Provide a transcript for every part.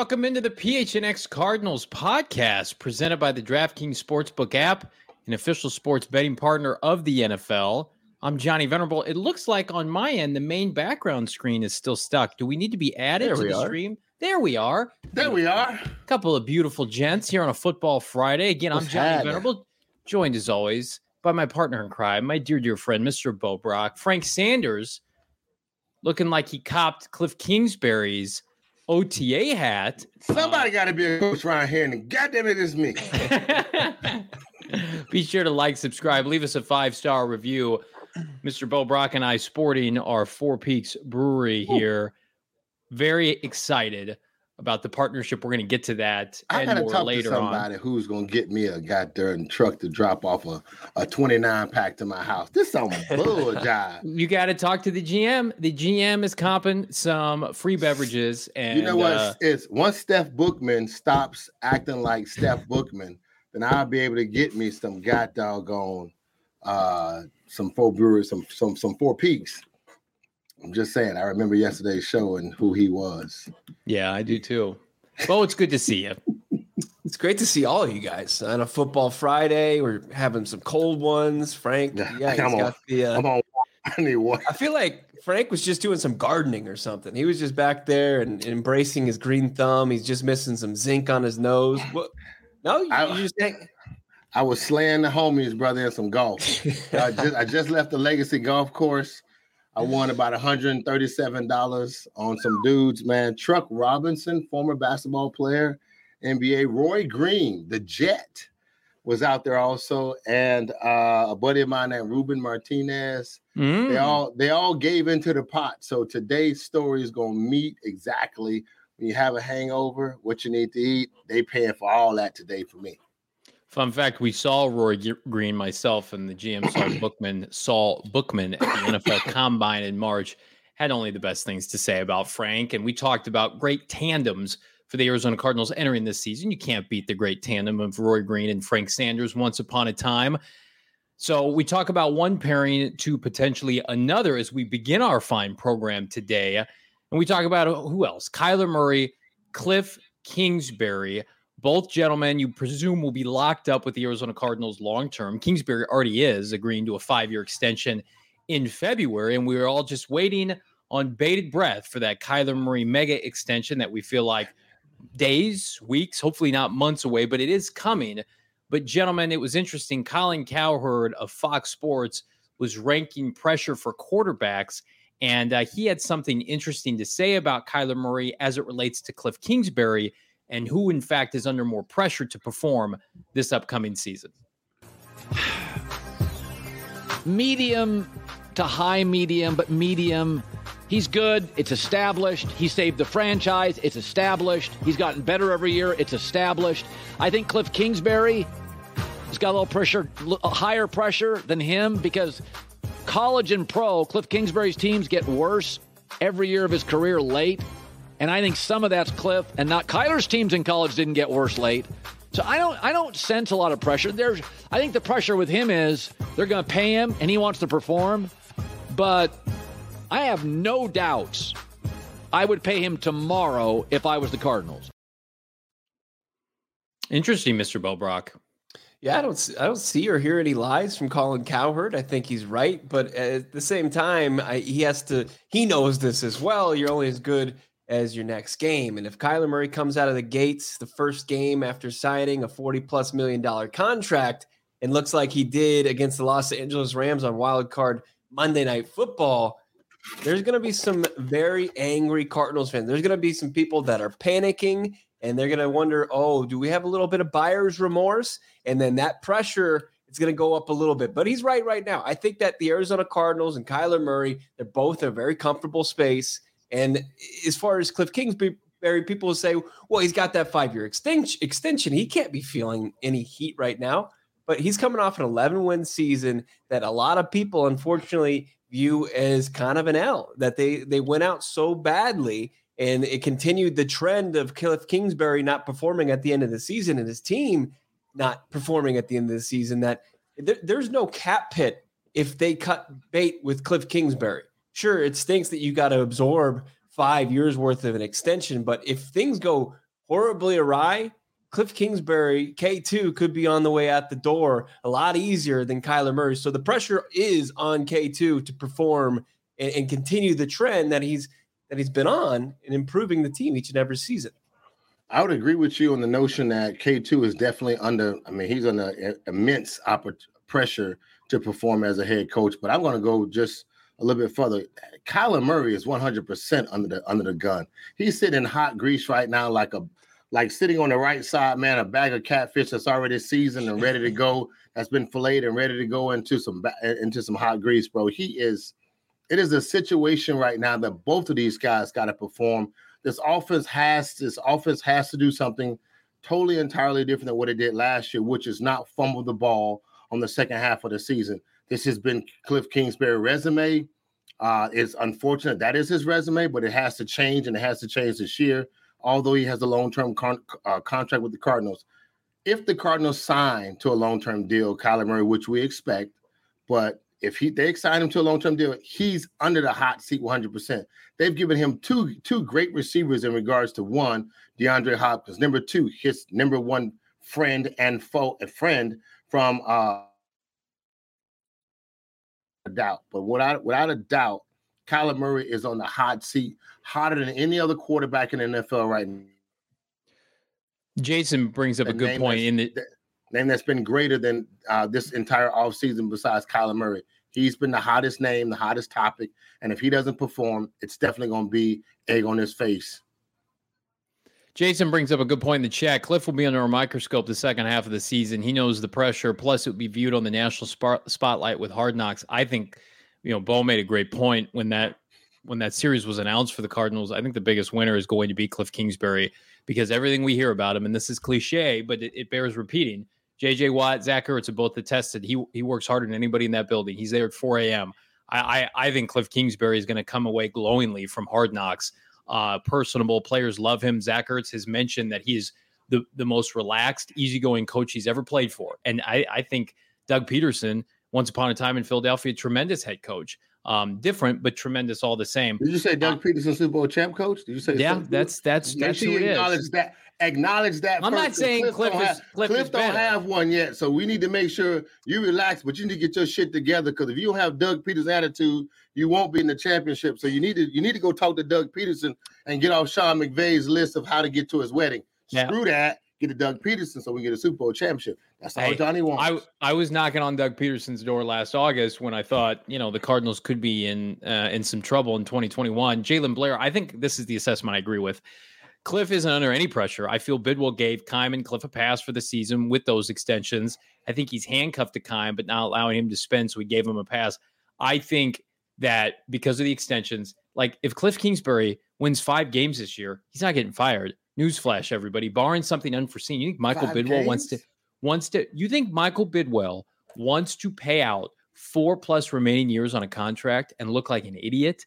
welcome into the PHNX Cardinals podcast presented by the DraftKings Sportsbook app, an official sports betting partner of the NFL. I'm Johnny Venerable. It looks like on my end, the main background screen is still stuck. Do we need to be added to the stream? There we are. There we are. A couple of beautiful gents here on a football Friday. Again, I'm Johnny Venerable, joined as always by my partner in crime, my dear friend, Mr. Bo Brock. Frank Sanders, looking like he copped Cliff Kingsbury's OTA hat. Somebody got to be a coach around here, and goddamn it, it's me. Be sure to like, subscribe, leave us a 5-star review. Mr. Bo Brock and I sporting our Four Peaks Brewery here. Very excited about the partnership. We're going to get to that I and more talk later to somebody on. Who's going to get me a goddamn truck to drop off a 29-pack to my house. This some bull job. You got to talk to the GM. The GM is comping some free beverages. And you know what? It's once Steph Bookman stops acting like Steph Bookman, then I'll be able to get me some doggone some Four Brewers, some Four Peaks. I'm just saying, I remember yesterday's show and who he was. Yeah, I do too. Well, it's good to see you. It's great to see all of you guys on a football Friday. We're having some cold ones. Frank, I'm on. I need water. I feel like Frank was just doing some gardening or something. He was just back there and embracing his green thumb. He's just missing some zinc on his nose. What? No, you just think. I was slaying the homies, brother, in some golf. I just left the Legacy Golf Course. I won about $137 on some dudes, man. Truck Robinson, former basketball player, NBA. Roy Green, the Jet, was out there also, and a buddy of mine named Ruben Martinez. They all gave into the pot. So today's story is going to meet exactly when you have a hangover, what you need to eat. They paying for all that today for me. Fun fact, we saw Roy Green, myself, and the GM Saul Bookman at the NFL Combine in March. Had only the best things to say about Frank. And we talked about great tandems for the Arizona Cardinals entering this season. You can't beat the great tandem of Roy Green and Frank Sanders once upon a time. So we talk about one pairing to potentially another as we begin our fine program today. And we talk about who else? Kyler Murray, Cliff Kingsbury. Both gentlemen, you presume, will be locked up with the Arizona Cardinals long-term. Kingsbury already is, agreeing to a 5-year extension in February, and we are all just waiting on bated breath for that Kyler Murray mega extension that we feel like days, weeks, hopefully not months away, but it is coming. But, gentlemen, it was interesting. Colin Cowherd of Fox Sports was ranking pressure for quarterbacks, and he had something interesting to say about Kyler Murray as it relates to Cliff Kingsbury and who, in fact, is under more pressure to perform this upcoming season. Medium to high medium, but medium. He's good. It's established. He saved the franchise. It's established. He's gotten better every year. It's established. I think Cliff Kingsbury has got a little pressure, higher pressure than him because college and pro, Cliff Kingsbury's teams get worse every year of his career late. And I think some of that's Cliff and not Kyler's teams in college didn't get worse late. So I don't sense a lot of pressure. I think the pressure with him is they're going to pay him and he wants to perform. But I have no doubts I would pay him tomorrow if I was the Cardinals. Interesting, Mr. Bo Brock. Yeah, I don't see or hear any lies from Colin Cowherd. I think he's right, but at the same time, he knows this as well. You're only as good as your next game. And if Kyler Murray comes out of the gates the first game after signing a $40+ million contract and looks like he did against the Los Angeles Rams on Wild Card Monday Night Football, there's going to be some very angry Cardinals fans. There's going to be some people that are panicking and they're going to wonder, do we have a little bit of buyer's remorse? And then that pressure, it's going to go up a little bit. But he's right now. I think that the Arizona Cardinals and Kyler Murray, they're both in a very comfortable space. And as far as Cliff Kingsbury, people will say, well, he's got that 5-year extension. He can't be feeling any heat right now. But he's coming off an 11-win season that a lot of people, unfortunately, view as kind of an L, that they went out so badly. And it continued the trend of Cliff Kingsbury not performing at the end of the season and his team not performing at the end of the season, that there's no cap pit if they cut bait with Cliff Kingsbury. Sure, it stinks that you got to absorb 5 years worth of an extension, but if things go horribly awry, Cliff Kingsbury, K2, could be on the way out the door a lot easier than Kyler Murray. So the pressure is on K2 to perform and continue the trend that he's been on in improving the team each and every season. I would agree with you on the notion that K2 is definitely he's under immense pressure to perform as a head coach, but I'm going to go just a little bit further. Kyler Murray is 100% under the gun. He's sitting in hot grease right now, like sitting on the right side, man, a bag of catfish that's already seasoned and ready to go, that's been filleted and ready to go into some hot grease, bro. It is a situation right now that both of these guys got to perform. This offense has to do something totally entirely different than what it did last year, which is not fumble the ball on the second half of the season. This has been Cliff Kingsbury's resume. It's unfortunate that is his resume, but it has to change, and it has to change this year, although he has a long-term contract with the Cardinals. If the Cardinals sign to a long-term deal, Kyler Murray, which we expect, but if they sign him to a long-term deal, he's under the hot seat 100%. They've given him two great receivers in regards to, one, DeAndre Hopkins, number two, his number one friend and friend from doubt. But without a doubt, Kyler Murray is on the hot seat, hotter than any other quarterback in the NFL right now. Jason brings up a good point in the name that's been greater than this entire offseason besides Kyler Murray. He's been the hottest name, the hottest topic, and if he doesn't perform, it's definitely going to be egg on his face. Jason brings up a good point in the chat. Cliff will be under a microscope the second half of the season. He knows the pressure. Plus, it would be viewed on the national spotlight with Hard Knocks. I think, Bo made a great point when that series was announced for the Cardinals. I think the biggest winner is going to be Cliff Kingsbury, because everything we hear about him, and this is cliche, but it bears repeating. J.J. Watt, Zach Ertz have both attested he works harder than anybody in that building. He's there at 4 a.m. I think Cliff Kingsbury is going to come away glowingly from Hard Knocks. Personable, players love him. Zach Ertz has mentioned that he's the most relaxed, easygoing coach he's ever played for. And I think Doug Peterson, once upon a time in Philadelphia, tremendous head coach. Different, but tremendous all the same. Did you say Doug Peterson, Super Bowl champ coach? Did you say? Yeah, that's who it is. Acknowledge that. I'm not saying Cliff don't have one yet, so we need to make sure you relax. But you need to get your shit together, because if you don't have Doug Peterson's attitude, you won't be in the championship. So you need to go talk to Doug Peterson and get off Sean McVay's list of how to get to his wedding. Yeah. Screw that. Get to Doug Peterson so we get a Super Bowl championship. That's all Johnny wants. I was knocking on Doug Peterson's door last August when I thought, the Cardinals could be in some trouble in 2021. Jalen Blair, I think this is the assessment I agree with. Cliff isn't under any pressure. I feel Bidwell gave Keim and Cliff a pass for the season with those extensions. I think he's handcuffed to Keim, but not allowing him to spend, so he gave him a pass. I think that because of the extensions, like if Cliff Kingsbury wins 5 games this year, he's not getting fired. Newsflash, everybody. Barring something unforeseen, you think Michael Bidwell wants to? You think Michael Bidwell wants to pay out 4+ remaining years on a contract and look like an idiot?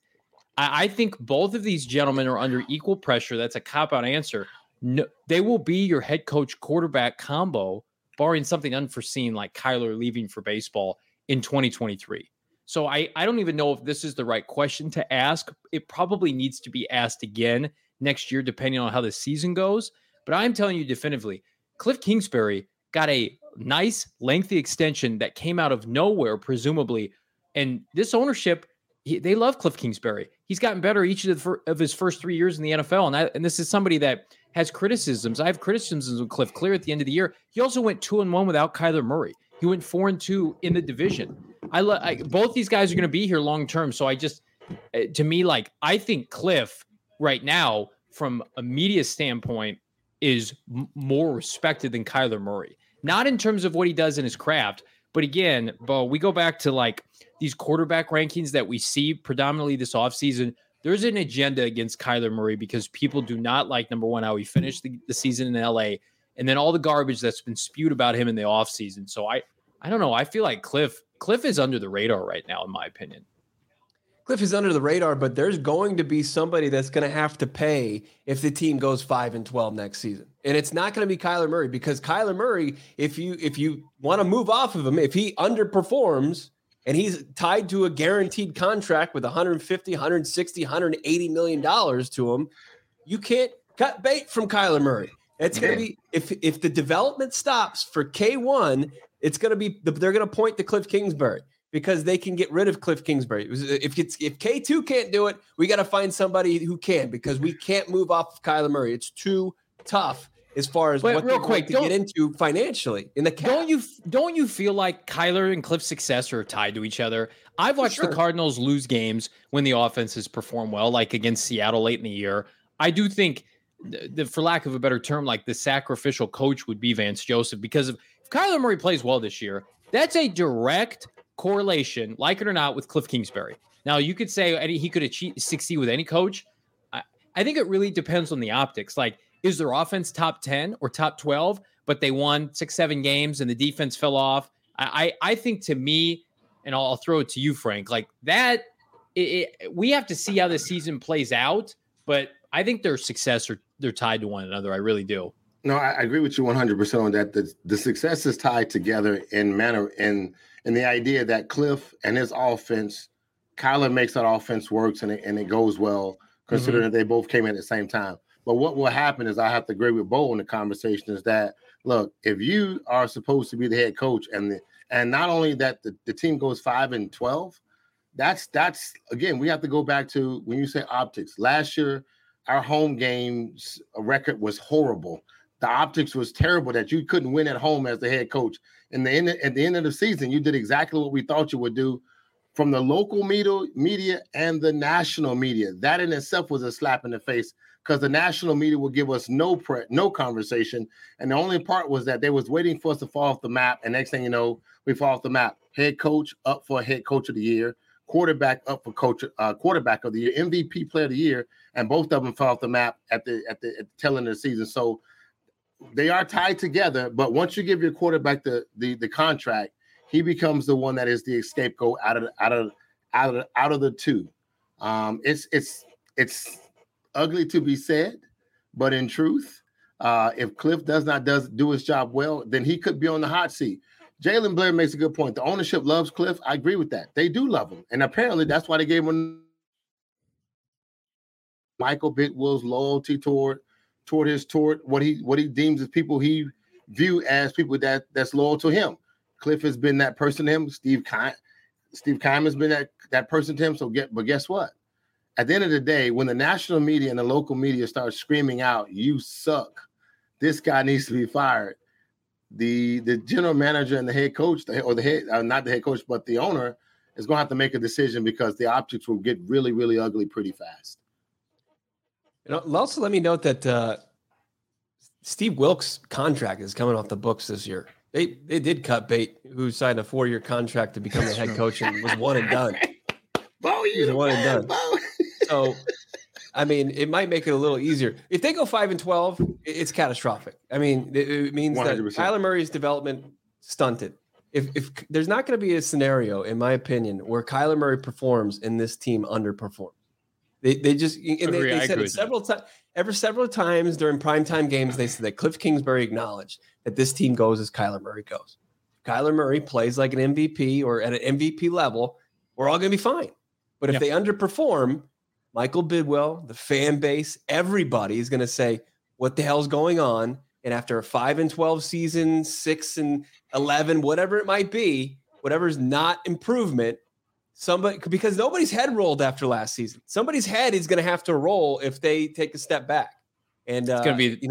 I think both of these gentlemen are under equal pressure. That's a cop-out answer. No, they will be your head coach quarterback combo, barring something unforeseen like Kyler leaving for baseball in 2023. So I don't even know if this is the right question to ask. It probably needs to be asked again next year, depending on how the season goes. But I'm telling you definitively, Cliff Kingsbury got a nice, lengthy extension that came out of nowhere, presumably. And this ownership, they love Cliff Kingsbury. He's gotten better each of his first 3 years in the NFL. And this is somebody that has criticisms. I have criticisms with Cliff clear at the end of the year. He also went 2-1 without Kyler Murray. He went 4-2 in the division. Both these guys are going to be here long term. So I think Cliff right now, from a media standpoint, is more respected than Kyler Murray. Not in terms of what he does in his craft, but again, Bo, we go back to like these quarterback rankings that we see predominantly this offseason. There's an agenda against Kyler Murray because people do not like, number one, how he finished the season in LA, and then all the garbage that's been spewed about him in the offseason. So I don't know. I feel like Cliff is under the radar right now, in my opinion. Cliff is under the radar, but there's going to be somebody that's going to have to pay if the team goes 5-12 next season. And it's not going to be Kyler Murray, because Kyler Murray, if you want to move off of him, if he underperforms and he's tied to a guaranteed contract with $150, $160, $180 million to him, you can't cut bait from Kyler Murray. It's going to be if the development stops for K1, it's going to be they're going to point to Cliff Kingsbury because they can get rid of Cliff Kingsbury. If K2 can't do it, we got to find somebody who can because we can't move off of Kyler Murray. It's too tough as far as what they're to get into financially in the cap. Don't you feel like Kyler and Cliff's success are tied to each other? I've watched the Cardinals lose games when the offense has performed well, like against Seattle late in the year. I do think, for lack of a better term, like the sacrificial coach would be Vance Joseph, because if Kyler Murray plays well this year, that's a direct correlation, like it or not, with Cliff Kingsbury. Now, you could say he could succeed with any coach. I think it really depends on the optics. Like, is their offense top 10 or top 12, but they won 6-7 games and the defense fell off? I think, to me, and I'll throw it to you, Frank, like that, we have to see how the season plays out, but I think their success they're tied to one another. I really do. No, I agree with you 100% on that. The success is tied together in the idea that Cliff and his offense, Kyler makes that offense works and it goes well, considering that they both came in at the same time. But what will happen is I have to agree with Bo in the conversation is that, look, if you are supposed to be the head coach and not only that the team goes 5-12, that's again, we have to go back to when you say optics. Last year, our home games record was horrible. The optics was terrible that you couldn't win at home as the head coach. At the end of the season, you did exactly what we thought you would do from the local media and the national media. That in itself was a slap in the face because the national media would give us no conversation. And the only part was that they was waiting for us to fall off the map. And next thing you know, we fall off the map. Head coach up for head coach of the year, quarterback up for quarterback of the year, MVP player of the year, and both of them fell off the map at the tail end of the season. So they are tied together, but once you give your quarterback the contract, he becomes the one that is the scapegoat out of the two. It's ugly to be said, but in truth, if Cliff does not do his job well, then he could be on the hot seat. Jalen Blair makes a good point. The ownership loves Cliff. I agree with that. They do love him, and apparently that's why they gave him Michael Bidwill's loyalty toward what he deems as people he view as people that's loyal to him. Cliff has been that person to him. Steve Keim has been that person to him. But guess what? At the end of the day, when the national media and the local media start screaming out, "You suck," this guy needs to be fired. The general manager and the head coach, not the head coach, but the owner, is going to have to make a decision because the optics will get really, really ugly pretty fast. And also, let me note that Steve Wilks' contract is coming off the books this year. They did cut bait, who signed a 4-year contract to become the head coach and was one and done. He's one and done. So, I mean, it might make it a little easier. If they go 5-12, it's catastrophic. I mean, it means 100%. That Kyler Murray's development stunted. If there's not going to be a scenario, in my opinion, where Kyler Murray performs and this team underperforms. They said it several times during primetime games. They said that Cliff Kingsbury acknowledged that this team goes as Kyler Murray goes. If Kyler Murray plays like an MVP or at an MVP level, we're all going to be fine. But if they underperform, Michael Bidwill, the fan base, everybody is going to say, what the hell's going on? And after a 5-12 season, 6-11, whatever it might be, whatever's not improvement, because nobody's head rolled after last season. Somebody's head is going to have to roll if they take a step back. And it's going to be,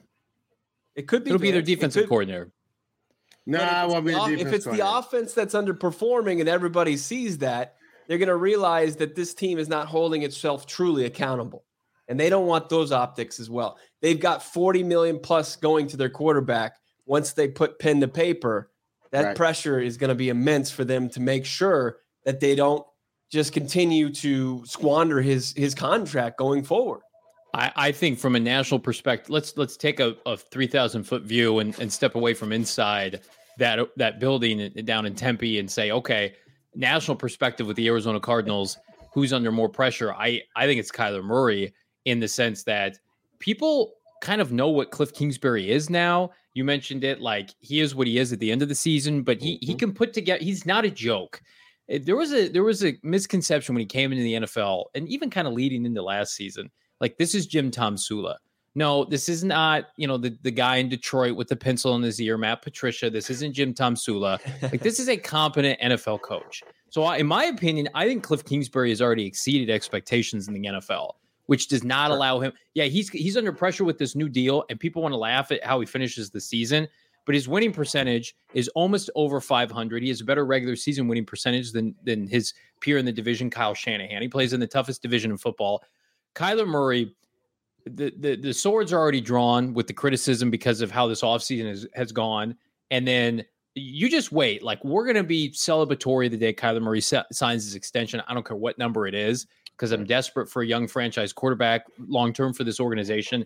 it could be. It'll be their defensive coordinator. No, I won't be the defensive If it's the offense that's underperforming and everybody sees that, they're going to realize that this team is not holding itself truly accountable. And they don't want those optics as well. They've got $40 million plus going to their quarterback. Once they put pen to paper, that pressure is going to be immense for them to make sure that they don't just continue to squander his contract going forward. I think from a national perspective, let's take a 3,000-foot view and step away from inside that building down in Tempe and say, okay, national perspective with the Arizona Cardinals, who's under more pressure? I think it's Kyler Murray, in the sense that people kind of know what Cliff Kingsbury is now. You mentioned it, like he is what he is at the end of the season, but he can put together, he's not a joke. There was a misconception when he came into the NFL, and even kind of leading into last season, like this is Jim Tomsula. No, this is not, the guy in Detroit with the pencil in his ear, Matt Patricia. This isn't Jim Tomsula. Like, this is a competent NFL coach. So in my opinion, I think Cliff Kingsbury has already exceeded expectations in the NFL, which does not allow him. Yeah, he's under pressure with this new deal, and people want to laugh at how he finishes the season. But his winning percentage is almost over 500. He has a better regular season winning percentage than his peer in the division, Kyle Shanahan. He plays in the toughest division in football. Kyler Murray, the swords are already drawn with the criticism because of how this offseason has gone. And then you just wait. Like, we're going to be celebratory the day Kyler Murray signs his extension. I don't care what number it is, because I'm desperate for a young franchise quarterback long-term for this organization.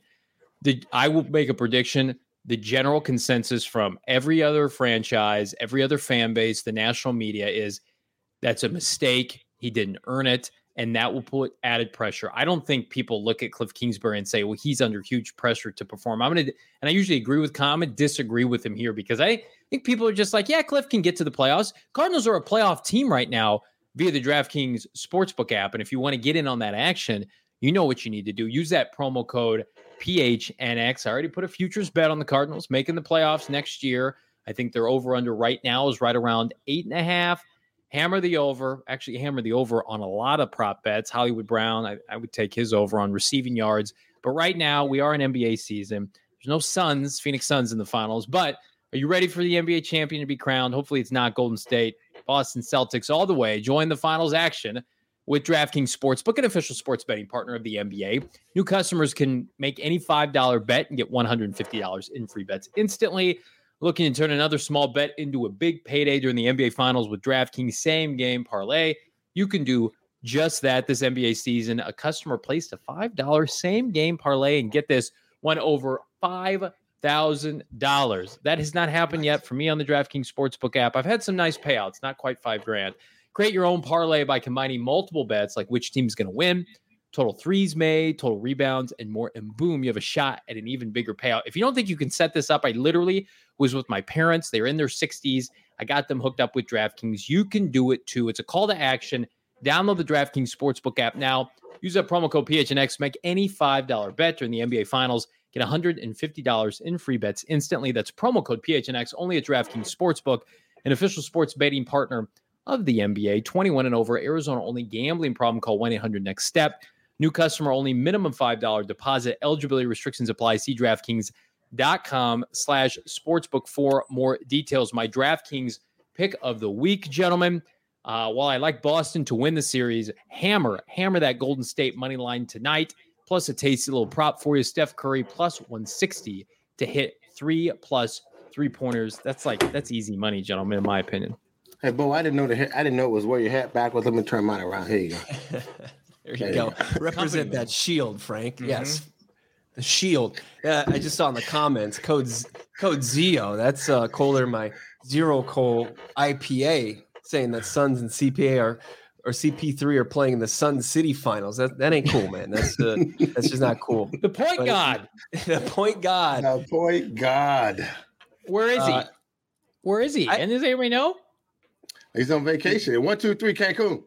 I will make a prediction. The general consensus from every other franchise, every other fan base, the national media is that's a mistake. He didn't earn it. And that will put added pressure. I don't think people look at Cliff Kingsbury and say, well, he's under huge pressure to perform. And I usually agree with Tom and disagree with him here, because I think people are just like, yeah, Cliff can get to the playoffs. Cardinals are a playoff team right now via the DraftKings Sportsbook app. And if you want to get in on that action, you know what you need to do. Use that promo code PHNX. I already put a futures bet on the Cardinals making the playoffs next year. I think their over-under right now is right around 8.5. Hammer the over. Actually, hammer the over on a lot of prop bets. Hollywood Brown, I would take his over on receiving yards. But right now, we are in NBA season. There's no Phoenix Suns in the finals. But are you ready for the NBA champion to be crowned? Hopefully it's not Golden State. Boston Celtics all the way. Join the finals action with DraftKings Sportsbook, an official sports betting partner of the NBA. New customers can make any $5 bet and get $150 in free bets instantly. Looking to turn another small bet into a big payday during the NBA Finals with DraftKings Same Game Parlay. You can do just that this NBA season. A customer placed a $5 Same Game Parlay and get this, won over $5,000. That has not happened yet for me on the DraftKings Sportsbook app. I've had some nice payouts, not quite $5,000. Create your own parlay by combining multiple bets, like which team's going to win, total threes made, total rebounds, and more. And boom, you have a shot at an even bigger payout. If you don't think you can set this up, I literally was with my parents. They were in their 60s. I got them hooked up with DraftKings. You can do it too. It's a call to action. Download the DraftKings Sportsbook app now. Use that promo code PHNX. Make any $5 bet during the NBA Finals. Get $150 in free bets instantly. That's promo code PHNX only at DraftKings Sportsbook, an official sports betting partner of the NBA. 21 and over, Arizona only. Gambling problem? Call 1-800-NEXT-STEP. New customer only. Minimum $5 deposit. Eligibility restrictions apply. See DraftKings.com/sportsbook for more details. My DraftKings pick of the week, gentlemen. While I like Boston to win the series, hammer that Golden State money line tonight. Plus a tasty little prop for you. Steph Curry plus 160 to hit 3+ 3-pointers. That's easy money, gentlemen, in my opinion. Hey, Bo, I didn't know it was wear your hat backwards. Let me turn mine around. Here you go. There you go. Represent that shield, Frank. Mm-hmm. Yes. The shield. I just saw in the comments, code ZEO. That's Kohler, my Zero Coal IPA, saying that Suns and CPA or CP3 are playing in the Sun City finals. That ain't cool, man. That's just not cool. The point guard. The point guard. The point guard. Where is he? Where is he? And does anybody know? He's on vacation. 1, 2, 3, Cancun.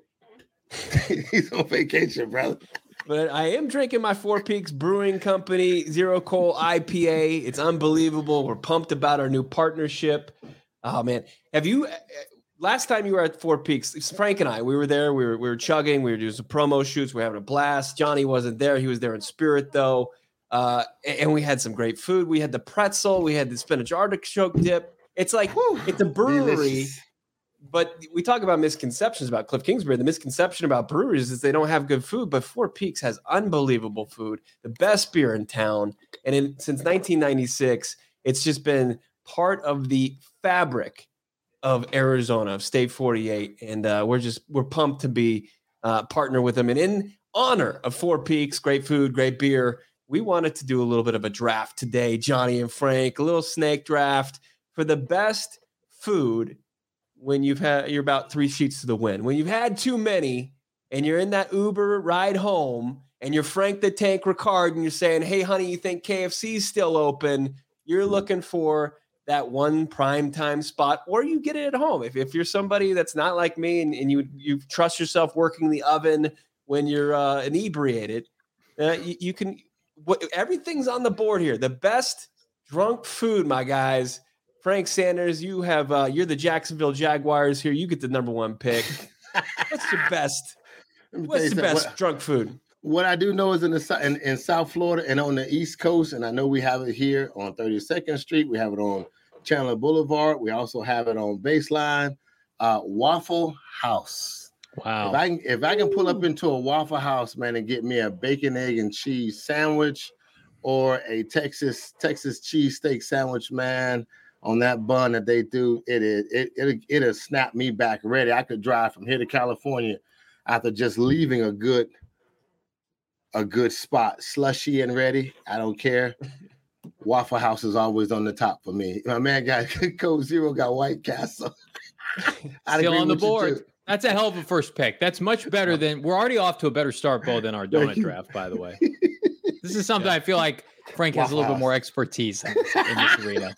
He's on vacation, brother. But I am drinking my Four Peaks Brewing Company Zero Coal IPA. It's unbelievable. We're pumped about our new partnership. Oh man, have you? Last time you were at Four Peaks, Frank and I, we were there. We were chugging. We were doing some promo shoots. We were having a blast. Johnny wasn't there. He was there in spirit though, and we had some great food. We had the pretzel. We had the spinach artichoke dip. It's like it's a brewery. Delicious. But we talk about misconceptions about Cliff Kingsbury. The misconception about breweries is they don't have good food, but Four Peaks has unbelievable food, the best beer in town. And since 1996, it's just been part of the fabric of Arizona, of State 48. And we're pumped to be partner with them. And in honor of Four Peaks, great food, great beer, we wanted to do a little bit of a draft today, Johnny and Frank, a little snake draft for the best food when you're about 3 sheets to the wind. When you've had too many and you're in that Uber ride home and you're Frank the Tank Ricard and you're saying, hey, honey, you think KFC's still open? You're looking for that one prime time spot, or you get it at home. If you're somebody that's not like me and you trust yourself working the oven when you're inebriated, you can everything's on the board here. The best drunk food, my guys. Frank Sanders, you have you're the Jacksonville Jaguars here. You get the number 1 pick. What's your best? What's the best drunk food? What I do know is in South Florida and on the East Coast, and I know we have it here on 32nd Street. We have it on Chandler Boulevard. We also have it on Baseline. Waffle House. Wow. If I can pull up into a Waffle House, man, and get me a bacon, egg, and cheese sandwich or a Texas cheesesteak sandwich, man, on that bun that they do, it'll snap me back ready. I could drive from here to California after just leaving a good spot, slushy and ready. I don't care. Waffle House is always on the top for me. My man got Code Zero, got White Castle. Still on the board. That's a hell of a first pick. That's much better than we're already off to a better start, Bo, than our donut draft, by the way. This is something I feel like Frank has a little bit more expertise in this arena.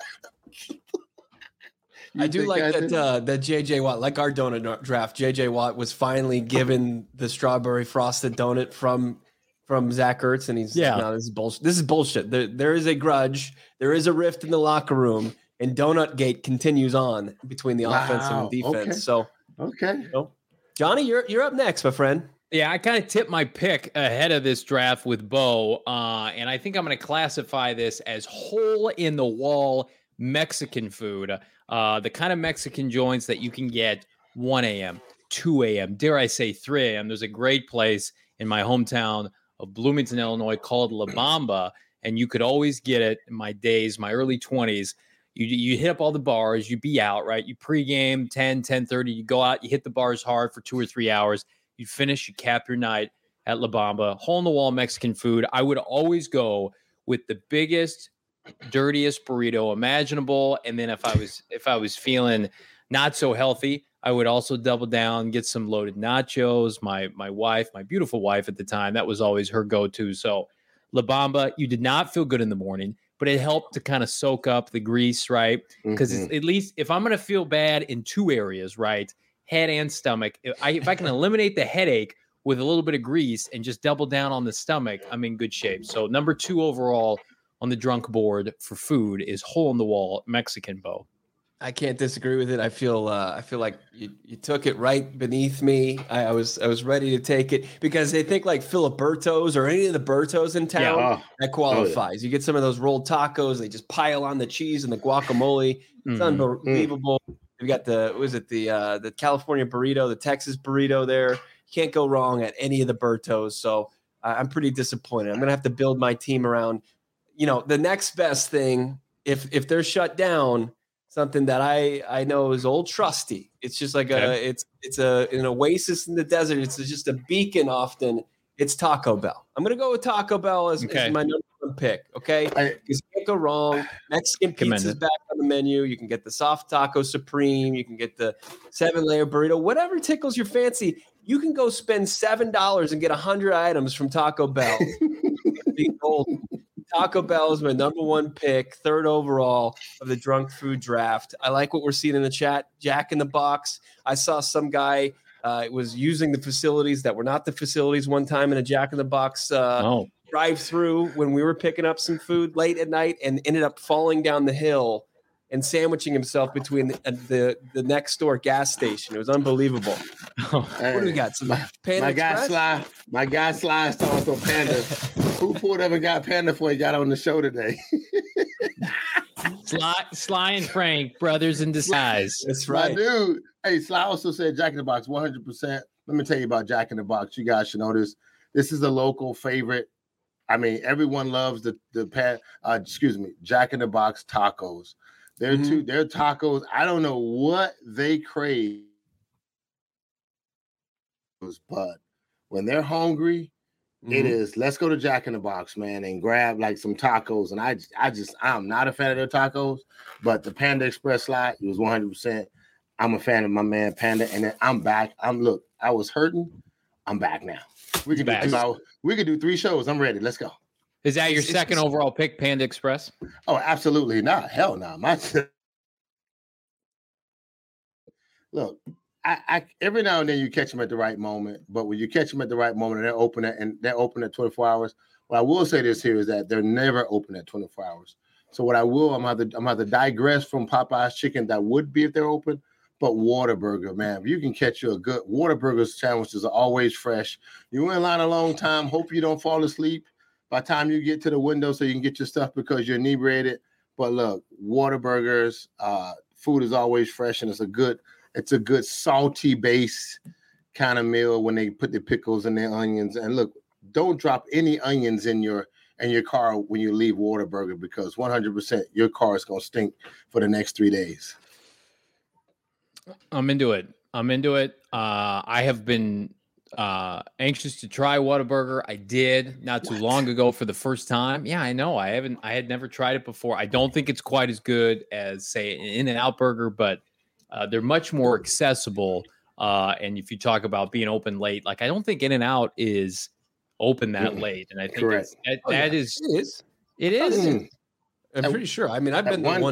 I do like that JJ Watt, like our donut draft, JJ Watt was finally given the strawberry frosted donut from Zach Ertz, and he's no, this is bullshit. This is bullshit. There is a grudge. There is a rift in the locker room, and Donut Gate continues on between the offense and the defense. Okay. So okay, Johnny, you're up next, my friend. Yeah, I kind of tipped my pick ahead of this draft with Bo, and I think I'm going to classify this as hole in the wall Mexican food. The kind of Mexican joints that you can get 1 a.m., 2 a.m., dare I say 3 a.m. There's a great place in my hometown of Bloomington, Illinois called La Bamba, and you could always get it in my early 20s. You hit up all the bars, you be out, right? You pregame 10:30, you go out, you hit the bars hard for 2 or 3 hours, you finish, you cap your night at La Bamba. Hole in the wall Mexican food. I would always go with the biggest, dirtiest burrito imaginable, and then if I was feeling not so healthy, I would also double down, get some loaded nachos. My wife, my beautiful wife at the time, that was always her go-to. So La Bamba, you did not feel good in the morning, but it helped to kind of soak up the grease, right? Because at least if I'm going to feel bad in 2 areas, right, head and stomach, if I can eliminate the headache with a little bit of grease and just double down on the stomach, I'm in good shape. So number 2 overall on the drunk board for food is hole in the wall Mexican, Bo. I can't disagree with it. I feel like you took it right beneath me. I was ready to take it because they think like Filiberto's or any of the Bertos in town that qualifies. You get some of those rolled tacos, they just pile on the cheese and the guacamole. It's unbelievable. You got the California burrito, the Texas burrito there. You can't go wrong at any of the Bertos. So I'm pretty disappointed. I'm gonna have to build my team around, the next best thing if they're shut down. Something that I know is Old Trusty. It's just like it's an oasis in the desert. It's just a beacon often. It's Taco Bell. I'm going to go with Taco Bell as my number 1 pick. Okay. Because you can't go wrong. Mexican pizza's back on the menu. You can get the soft taco supreme. You can get the 7-layer burrito, whatever tickles your fancy. You can go spend $7 and get 100 items from Taco Bell. Taco Bell is my number 1 pick, 3rd overall of the drunk food draft. I like what we're seeing in the chat. Jack in the Box. I saw some guy was using the facilities that were not the facilities one time in a Jack in the Box drive-through when we were picking up some food late at night and ended up falling down the hill and sandwiching himself between the next door gas station. It was unbelievable. What do we got? Some Panda Express? My guy Sly is talking about Panda. Who pulled up and got Panda before he got on the show today? Sly and Frank, brothers in disguise. That's right. My dude. Hey, Sly also said Jack in the Box, 100%. Let me tell you about Jack in the Box. You guys should know this. This is a local favorite. I mean, everyone loves Jack in the Box tacos. Their tacos, I don't know what they crave, but when they're hungry, it is, let's go to Jack in the Box, man, and grab like some tacos. And I'm not a fan of their tacos, but the Panda Express slide, it was 100%. I'm a fan of my man Panda, and then I'm back. I was hurting. I'm back now. We can do 3 shows. I'm ready. Let's go. Is that your second overall pick, Panda Express? Oh, absolutely not. Hell no. Look, I every now and then you catch them at the right moment, but when you catch them at the right moment, they're open at 24 hours. What I will say this here is that they're never open at 24 hours. So what I'm gonna have to digress from Popeye's chicken that would be if they're open, but Whataburger, man, if you can catch you a good Whataburger sandwiches are always fresh. You're in line a long time. Hope you don't fall asleep by the time you get to the window so you can get your stuff because you're inebriated. But look, Whataburgers, food is always fresh, and it's a good salty base kind of meal when they put the pickles and their onions. And look, don't drop any onions in your car when you leave Whataburger because 100% your car is gonna stink for the next 3 days. I'm into it. I have been anxious to try Whataburger. I did not too long ago for the first time. Yeah, I know. I had never tried it before. I don't think it's quite as good as, say, an In-N-Out burger, but they're much more accessible. And if you talk about being open late, like I don't think In-N-Out is open that late. And I think it is. I'm pretty sure. I mean, I've been to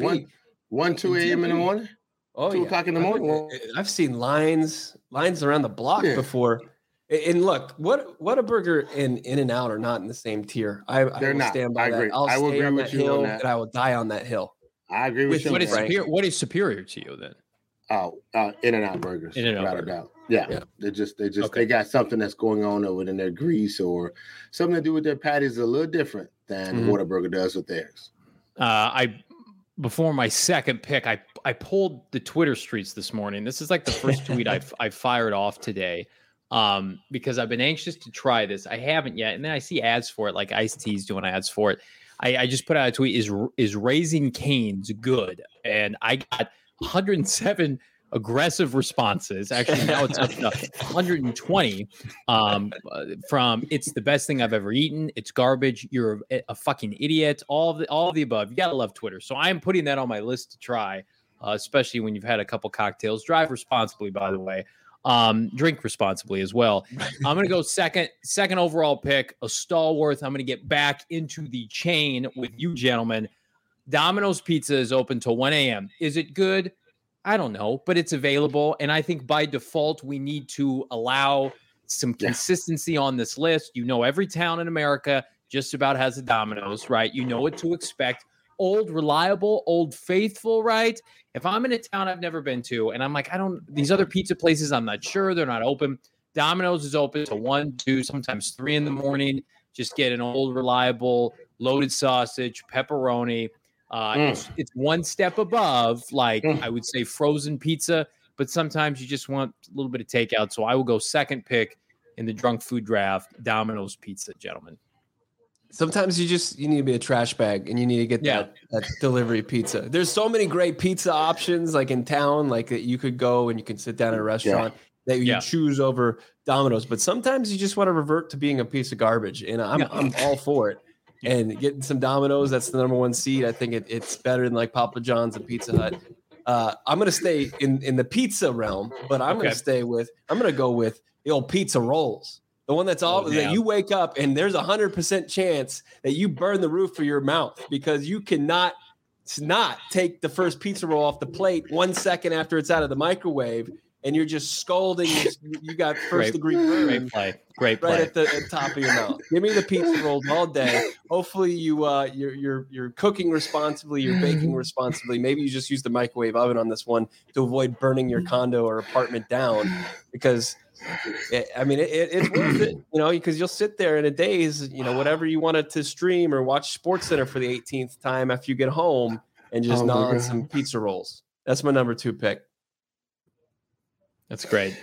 2 a.m. in the morning. 2 o'clock in the morning. I've seen lines around the block before. And look, Whataburger and In-N-Out are not in the same tier. They're not. Stand by that. I will agree with you on that. And I will die on that hill. I agree with you. What is superior to you then? In-N-Out burgers. In-N-Out burger. Yeah. They got something that's going on over in their grease or something to do with their patties a little different than Whataburger does with theirs. Before my second pick, I pulled the Twitter streets this morning. This is like the first tweet I fired off today because I've been anxious to try this. I haven't yet. And then I see ads for it, like Ice-T's doing ads for it. I just put out a tweet, is Raising Cane's good? And I got 107 aggressive responses. Actually, now it's up to 120 from it's the best thing I've ever eaten. It's garbage. You're a fucking idiot. All of the above. You gotta love Twitter. So I am putting that on my list to try, especially when you've had a couple cocktails. Drive responsibly, by the way. Drink responsibly as well. I'm gonna go second overall pick, a stalwart. I'm gonna get back into the chain with you gentlemen. Domino's Pizza is open till 1 a.m. Is it good? I don't know, but it's available. And I think by default, we need to allow some consistency on this list. You know, every town in America just about has a Domino's, right? You know what to expect. Old, reliable, old, faithful, right? If I'm in a town I've never been to and I'm like, these other pizza places, I'm not sure, they're not open. Domino's is open to 1, 2, sometimes 3 in the morning. Just get an old, reliable, loaded sausage, pepperoni. It's one step above, like I would say frozen pizza, but sometimes you just want a little bit of takeout. So I will go second pick in the drunk food draft, Domino's Pizza, gentlemen. Sometimes you need to be a trash bag and you need to get that delivery pizza. There's so many great pizza options like in town, like that you could go and you can sit down at a restaurant that you choose over Domino's. But sometimes you just want to revert to being a piece of garbage. And I'm all for it. And getting some Domino's, that's the number one seed. I think it's better than like Papa John's and Pizza Hut. I'm going to stay in the pizza realm, but I'm going to go with the old pizza rolls. The one that's that you wake up and there's 100% chance that you burn the roof of your mouth because you cannot not take the first pizza roll off the plate 1 second after it's out of the microwave. And you're just scalding. You got first-degree burn. Great play. Right at the top of your mouth. Give me the pizza rolls all day. Hopefully, you're cooking responsibly. You're baking responsibly. Maybe you just use the microwave oven on this one to avoid burning your condo or apartment down. Because, it's worth it. Because you'll sit there in a daze. Whatever you wanted to stream or watch SportsCenter for the 18th time after you get home, and just gnaw on some pizza rolls. That's my number 2 pick. That's great.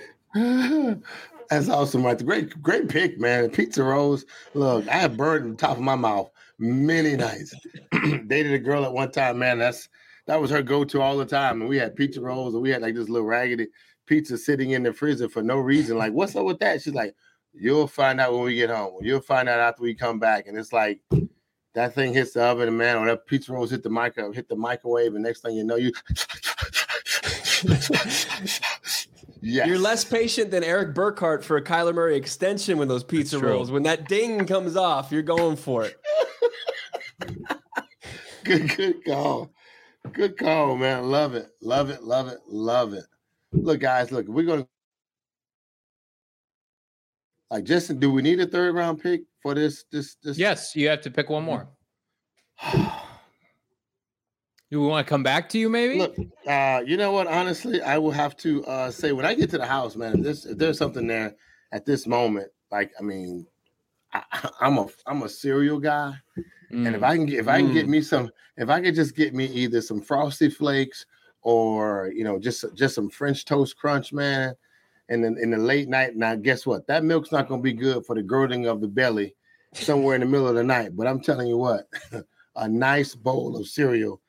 That's awesome, right? Great pick, man. Pizza rolls. Look, I have burned the top of my mouth many nights. Dated a girl at one time, man. That was her go-to all the time. And we had pizza rolls, and we had like this little raggedy pizza sitting in the freezer for no reason. Like, what's up with that? She's like, you'll find out when we get home. You'll find out after we come back. And it's like that thing hits the oven, and man, or that pizza rolls hit the microwave, and next thing you know, you. Yes. You're less patient than Eric Burkhart for a Kyler Murray extension with those pizza rolls. When that ding comes off, you're going for it. Good call. Good call, man. Love it. Look, guys, we're going to Like, Justin, do we need a 3rd round pick for this? Yes, you have to pick one more. Do we want to come back to you, maybe? Look, you know what? Honestly, I will have to say when I get to the house, man, if there's something there at this moment, like, I mean, I'm a cereal guy, and if I can get me some, if I could just get me either some Frosted Flakes or just some French Toast Crunch, man, and then in the late night. Now, guess what? That milk's not going to be good for the girding of the belly somewhere in the middle of the night. But I'm telling you what, a nice bowl of cereal.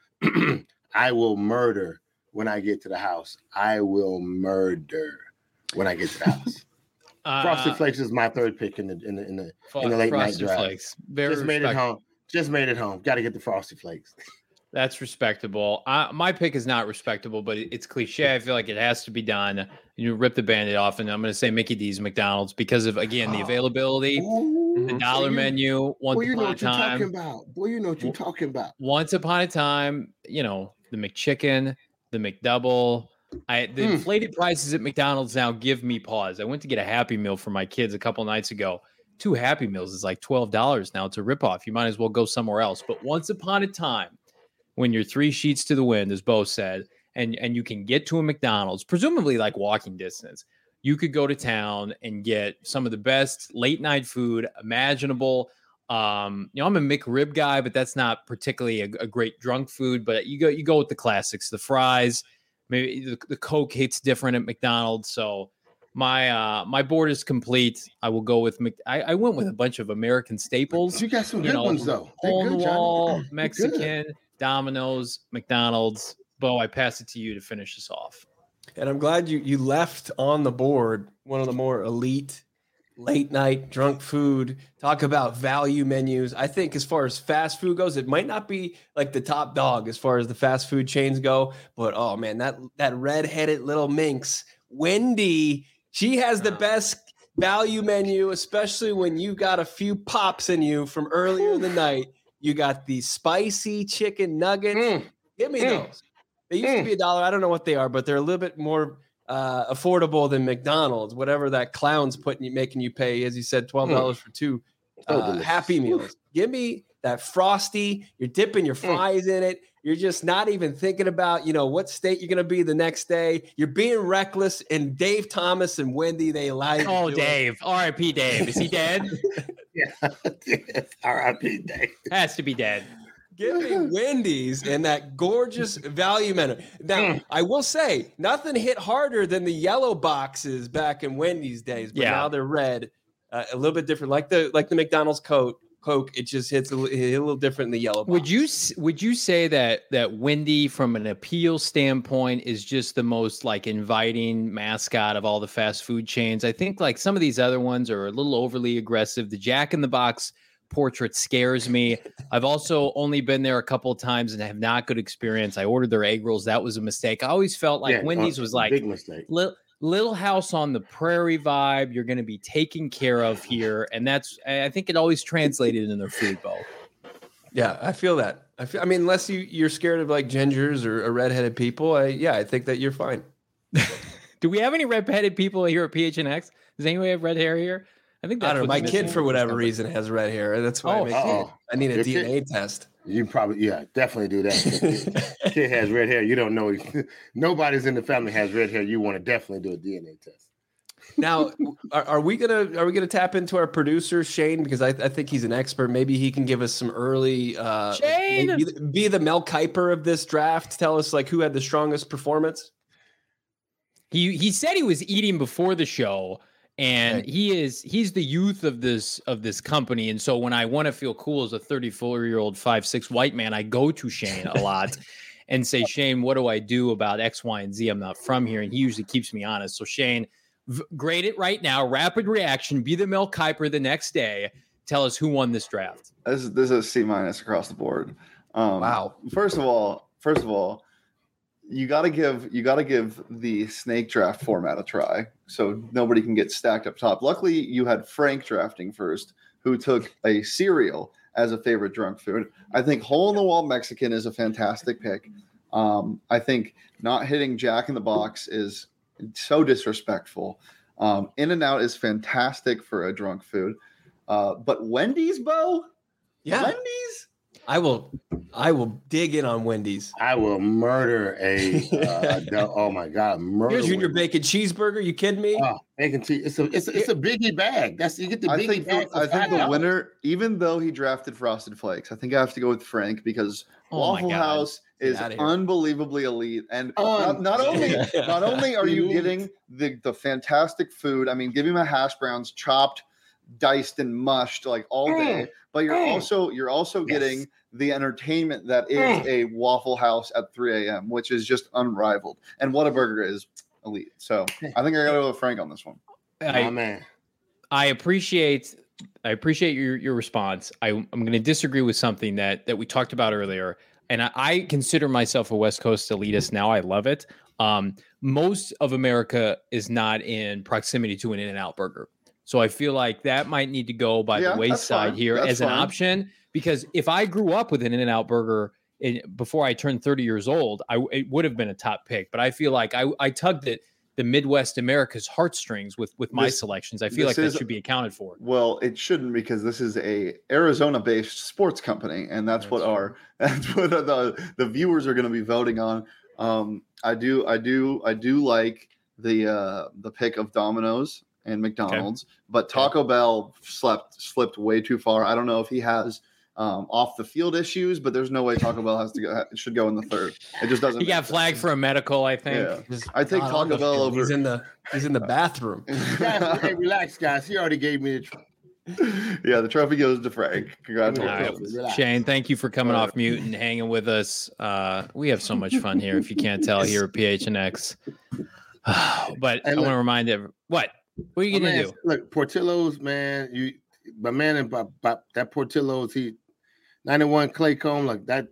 I will murder when I get to the house. I will murder when I get to the house. Frosted Flakes is my 3rd pick in the late night drive. Flakes. Very just made it home. Just made it home. Got to get the Frosted Flakes. That's respectable. My pick is not respectable, but it's cliche. I feel like it has to be done. You rip the Band-Aid off, and I'm going to say Mickey D's McDonald's because of, again, the availability, the dollar menu. Once upon a time. Boy, you know what you're talking about. Once upon a time, the McChicken, the McDouble. The inflated prices at McDonald's now give me pause. I went to get a Happy Meal for my kids a couple nights ago. 2 Happy Meals is like $12 now. It's a ripoff. You might as well go somewhere else. But once upon a time, when you're 3 sheets to the wind, as Bo said, and you can get to a McDonald's, presumably like walking distance, you could go to town and get some of the best late night food imaginable. I'm a McRib guy, but that's not particularly a great drunk food. But you go with the classics, the fries, maybe the Coke hits different at McDonald's. So my board is complete. I will go with I went with a bunch of American staples. You got some good ones though. Hole in the wall, Mexican, Domino's, McDonald's. Bo, I pass it to you to finish this off. And I'm glad you left on the board one of the more elite late night drunk food. Talk about value menus. I think as far as fast food goes, it might not be like the top dog as far as the fast food chains go, but oh man, that red-headed little minx, Wendy, she has the best value menu, especially when you got a few pops in you from earlier in the night. You got the spicy chicken nuggets. Give me those. They used to be $1. I don't know what they are, but they're a little bit more affordable than McDonald's, whatever that clown's making you pay, as you said, $12 for 2 Happy Meals. Give me that Frosty. You're dipping your fries in it. You're just not even thinking about, what state you're going to be the next day. You're being reckless. And Dave Thomas and Wendy, they lied. Oh, Dave. R.I.P. Dave. Is he dead? Yeah. R.I.P. Dave. Has to be dead. Give me Wendy's and that gorgeous value menu. Now, I will say, nothing hit harder than the yellow boxes back in Wendy's days, but now they're red, a little bit different, like the McDonald's Coke. It just hits a little different in the yellow box. Would you say that Wendy, from an appeal standpoint, is just the most like inviting mascot of all the fast food chains? I think like some of these other ones are a little overly aggressive. The Jack in the Box portrait scares me. I've also only been there a couple of times and have not good experience. I ordered their egg rolls. That was a mistake. I always felt like Wendy's was like big mistake. Little house on the prairie vibe. You're going to be taken care of here. And I think it always translated in their food, Bo. Yeah, I feel that. I mean, unless you're scared of like gingers or redheaded people, I think that you're fine. Do we have any redheaded people here at PHNX? Does anyone have red hair here? I don't know. My kid, for whatever reason, has red hair. That's why I need a DNA test. You probably, definitely do that. Kid has red hair. You don't know. Nobody's in the family has red hair. You want to definitely do a DNA test. Now, are we gonna tap into our producer Shane, because I think he's an expert. Maybe he can give us some early Shane, be the Mel Kiper of this draft. Tell us like who had the strongest performance. He said he was eating before the show. And he's the youth of this company. And so when I want to feel cool as a 34-year-old 5'6" white man, I go to Shane a lot and say, Shane, what do I do about X, Y, and Z? I'm not from here. And he usually keeps me honest. So Shane, grade it right now. Rapid reaction. Be the Mel Kiper the next day. Tell us who won this draft. This is a C- across the board. Wow. First of all, you got to give the snake draft format a try, so nobody can get stacked up top. Luckily, you had Frank drafting first, who took a cereal as a favorite drunk food. I think hole in the wall Mexican is a fantastic pick. I think not hitting Jack in the Box is so disrespectful. In-N-Out is fantastic for a drunk food. But Wendy's, Bo? Yeah. Wendy's? I will dig in on Wendy's. I will murder oh my God, murder. Here's Junior Wendy's. Bacon Cheeseburger. You kidding me? Bacon cheese. It's a biggie bag. You get the biggie bag. I think the winner, even though he drafted Frosted Flakes, I think I have to go with Frank because Waffle House is unbelievably elite. And not only are you getting the fantastic food, I mean, give me my hash browns chopped, diced, and mushed like all day, but you're also getting the entertainment that is a Waffle House at 3 a.m., which is just unrivaled. And Whataburger is elite. So I think I gotta go with Frank on this one. I appreciate your response. I'm going to disagree with something that we talked about earlier, and I consider myself a West Coast elitist now. I love it. Most of America is not in proximity to an In-N-Out burger, so I feel like that might need to go by the wayside here as an option. Because if I grew up with an In-N-Out burger before I turned 30 years old, it would have been a top pick. But I feel like I tugged at the Midwest America's heartstrings with my selections. I feel like that should be accounted for. Well, it shouldn't, because this is a Arizona-based sports company, and that's what the viewers are going to be voting on. I do like the pick of Domino's and McDonald's, but Taco Bell slipped way too far. I don't know if he has off the field issues, but there's no way Taco Bell should go in the third. It just doesn't. He got flagged for a medical, I think. Yeah. I take Taco Bell over. He's in the bathroom. Hey, relax, guys. He already gave me the trophy goes to Frank. Congratulations. Right. Shane, thank you for coming off mute and hanging with us. We have so much fun here, if you can't tell, here at PHNX. But I want to remind everyone, what are you going to do? Look, Portillo's, man. My man and that Portillo's, 91 Claycomb, like that.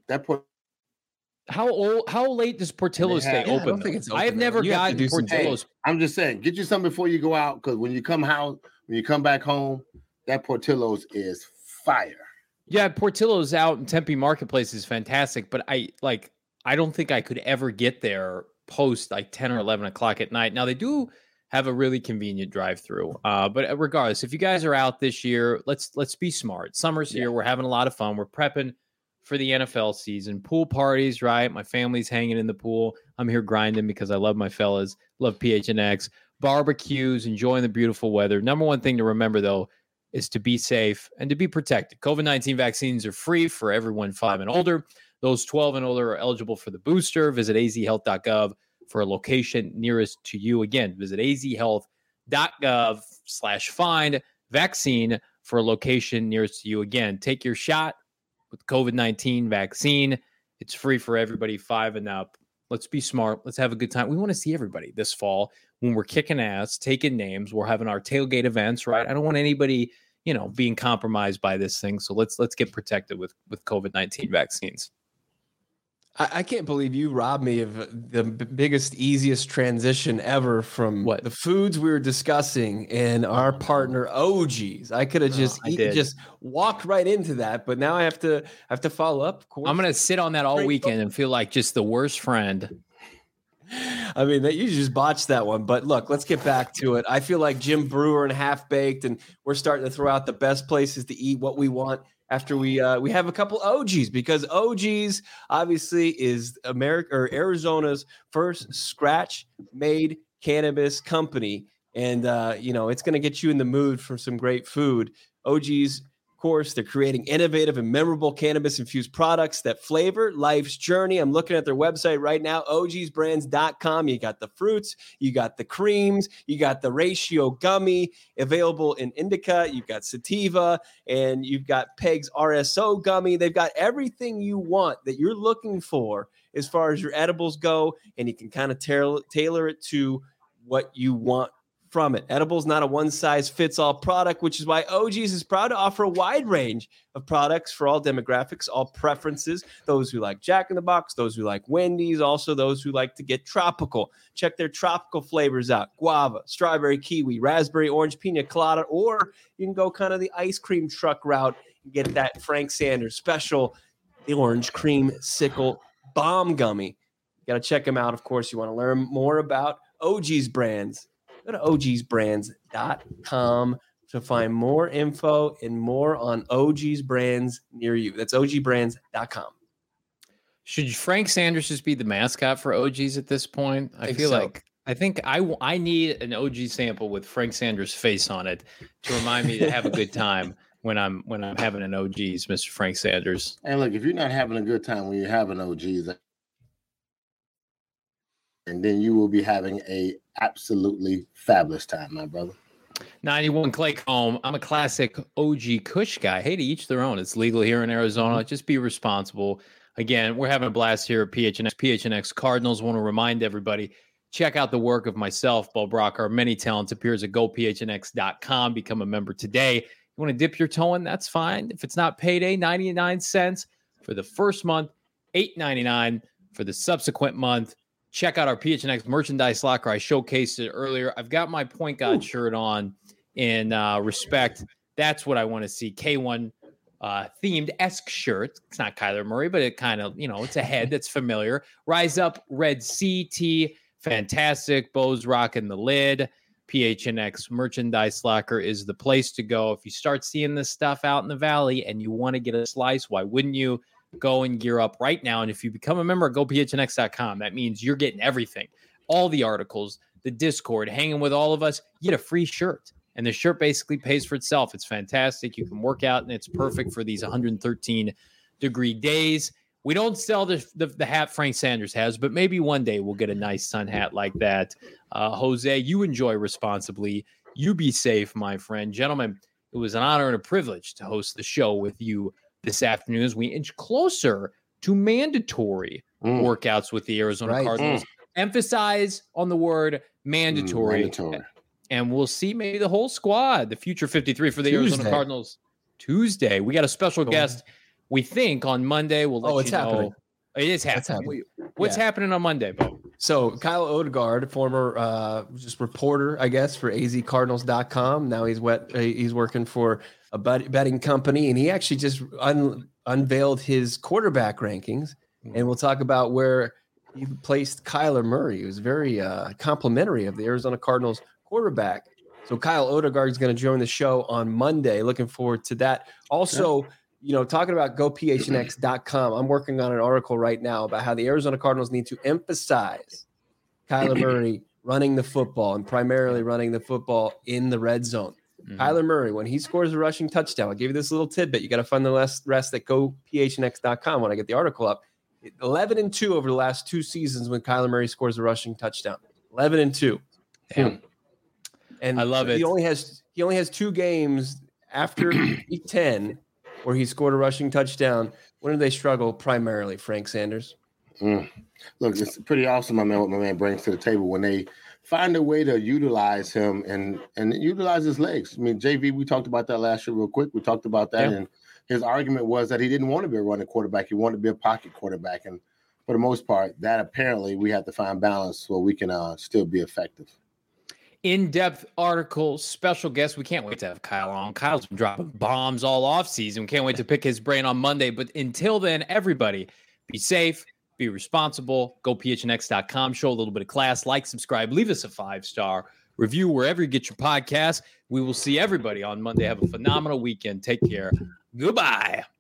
How late does Portillo's stay open? I don't think it's open. I have never gotten Portillo's. I'm just saying, get you something before you go out, because when you come back home, that Portillo's is fire. Yeah, Portillo's out in Tempe Marketplace is fantastic, but I don't think I could ever get there post like 10 or 11 o'clock at night. Now they do have a really convenient drive-through. But regardless, if you guys are out this year, let's be smart. Summer's here. We're having a lot of fun. We're prepping for the NFL season. Pool parties, right? My family's hanging in the pool. I'm here grinding because I love my fellas. Love PHNX. Barbecues, enjoying the beautiful weather. Number one thing to remember, though, is to be safe and to be protected. COVID-19 vaccines are free for everyone 5 and older. Those 12 and older are eligible for the booster. Visit azhealth.gov for a location nearest to you. Again, visit azhealth.gov/find vaccine for a location nearest to you. Again, take your shot with COVID-19 vaccine. It's free for everybody 5 and up. Let's be smart. Let's have a good time. We want to see everybody this fall when we're kicking ass, taking names. We're having our tailgate events, right? I don't want anybody, being compromised by this thing. So let's get protected with COVID-19 vaccines. I can't believe you robbed me of the biggest, easiest transition ever from the foods we were discussing and our partner OG's. I could have just walked right into that, but now I have to follow up. Of course, I'm gonna sit on that all weekend and feel like just the worst friend. I mean, that you just botched that one. But look, let's get back to it. I feel like Jim Brewer and Half Baked, and we're starting to throw out the best places to eat what we want. After we have a couple OGs, because OGs obviously is Arizona's first scratch-made cannabis company, and it's going to get you in the mood for some great food. OGs, of course, they're creating innovative and memorable cannabis-infused products that flavor life's journey. I'm looking at their website right now, ogsbrands.com. You got the fruits, you got the creams, you got the ratio gummy available in indica, you've got sativa, and you've got Peg's RSO gummy. They've got everything you want that you're looking for as far as your edibles go, and you can kind of tailor it to what you want from it. Edibles not a one-size-fits-all product, which is why OG's is proud to offer a wide range of products for all demographics, all preferences, those who like Jack in the Box, those who like Wendy's, also those who like to get tropical. Check their tropical flavors out: guava, strawberry, kiwi, raspberry, orange, pina colada, or you can go kind of the ice cream truck route and get that Frank Sanders special, the orange cream sickle bomb gummy. You got to check them out. Of course, you want to learn more about OG's brands. Go to ogsbrands.com to find more info and more on OG's brands near you. That's ogsbrands.com. Should Frank Sanders just be the mascot for OGs at this point? I think I need an OG sample with Frank Sanders' face on it to remind me to have a good time when I'm having an OGs, Mr. Frank Sanders. And look, if you're not having a good time when you're having OGs, and then you will be having a absolutely fabulous time, my brother. 91 Clay Comb. I'm a classic OG Kush guy. Hey, to each their own. It's legal here in Arizona. Just be responsible. Again, we're having a blast here at PHNX Cardinals. Want to remind everybody, check out the work of myself, Bo Brock, our many talented peers at gophnx.com. Become a member today. You want to dip your toe in? That's fine. If it's not payday, 99 cents for the first month, $8.99 for the subsequent month. Check out our PHNX merchandise locker. I showcased it earlier. I've got my Point Guard shirt on in respect. That's what I want to see. K1 themed-esque shirt. It's not Kyler Murray, but it kind of, it's a head that's familiar. Rise Up Red CT. Fantastic. Bo's rocking the lid. PHNX merchandise locker is the place to go. If you start seeing this stuff out in the valley and you want to get a slice, why wouldn't you? Go and gear up right now. And if you become a member, go phnx.com. That means you're getting everything, all the articles, the Discord, hanging with all of us. You get a free shirt, and the shirt basically pays for itself. It's fantastic. You can work out, and it's perfect for these 113-degree days. We don't sell the hat Frank Sanders has, but maybe one day we'll get a nice sun hat like that. Jose, you enjoy responsibly. You be safe, my friend. Gentlemen, it was an honor and a privilege to host the show with you this afternoon as we inch closer to mandatory workouts with the Arizona Cardinals. Emphasize on the word mandatory. And we'll see maybe the whole squad, the future 53 for the Arizona Cardinals. Tuesday. We got a special guest, we think, on Monday. We'll let you know. Happening. It is happening. What's happening on Monday, Bo? So Kyle Odegaard, former just reporter, I guess, for azcardinals.com. Now he's working for a betting company, and he actually just unveiled his quarterback rankings, and we'll talk about where he placed Kyler Murray. He was very complimentary of the Arizona Cardinals quarterback. So Kyle Odegaard is going to join the show on Monday. Looking forward to that. Also, talking about gophnx.com, I'm working on an article right now about how the Arizona Cardinals need to emphasize Kyler Murray running the football and primarily running the football in the red zone. Kyler Murray, when he scores a rushing touchdown, I'll give you this little tidbit. You got to find the rest at gophnx.com when I get the article up. 11-2 over the last 2 seasons when Kyler Murray scores a rushing touchdown. 11-2. Damn. And I love it. He only has 2 games after week 10 where he scored a rushing touchdown. When do they struggle primarily, Frank Sanders? Look, it's pretty awesome, my man, what my man brings to the table when they find a way to utilize him and utilize his legs. I mean, JV, we talked about that last year real quick. We talked about that, and his argument was that he didn't want to be a running quarterback. He wanted to be a pocket quarterback. And for the most part, that apparently we have to find balance so we can still be effective. In-depth article, special guest. We can't wait to have Kyle on. Kyle's been dropping bombs all offseason. We can't wait to pick his brain on Monday. But until then, everybody, be safe, be responsible. Go phnx.com. Show a little bit of class. Like, subscribe. Leave us a 5-star review wherever you get your podcasts. We will see everybody on Monday. Have a phenomenal weekend. Take care. Goodbye.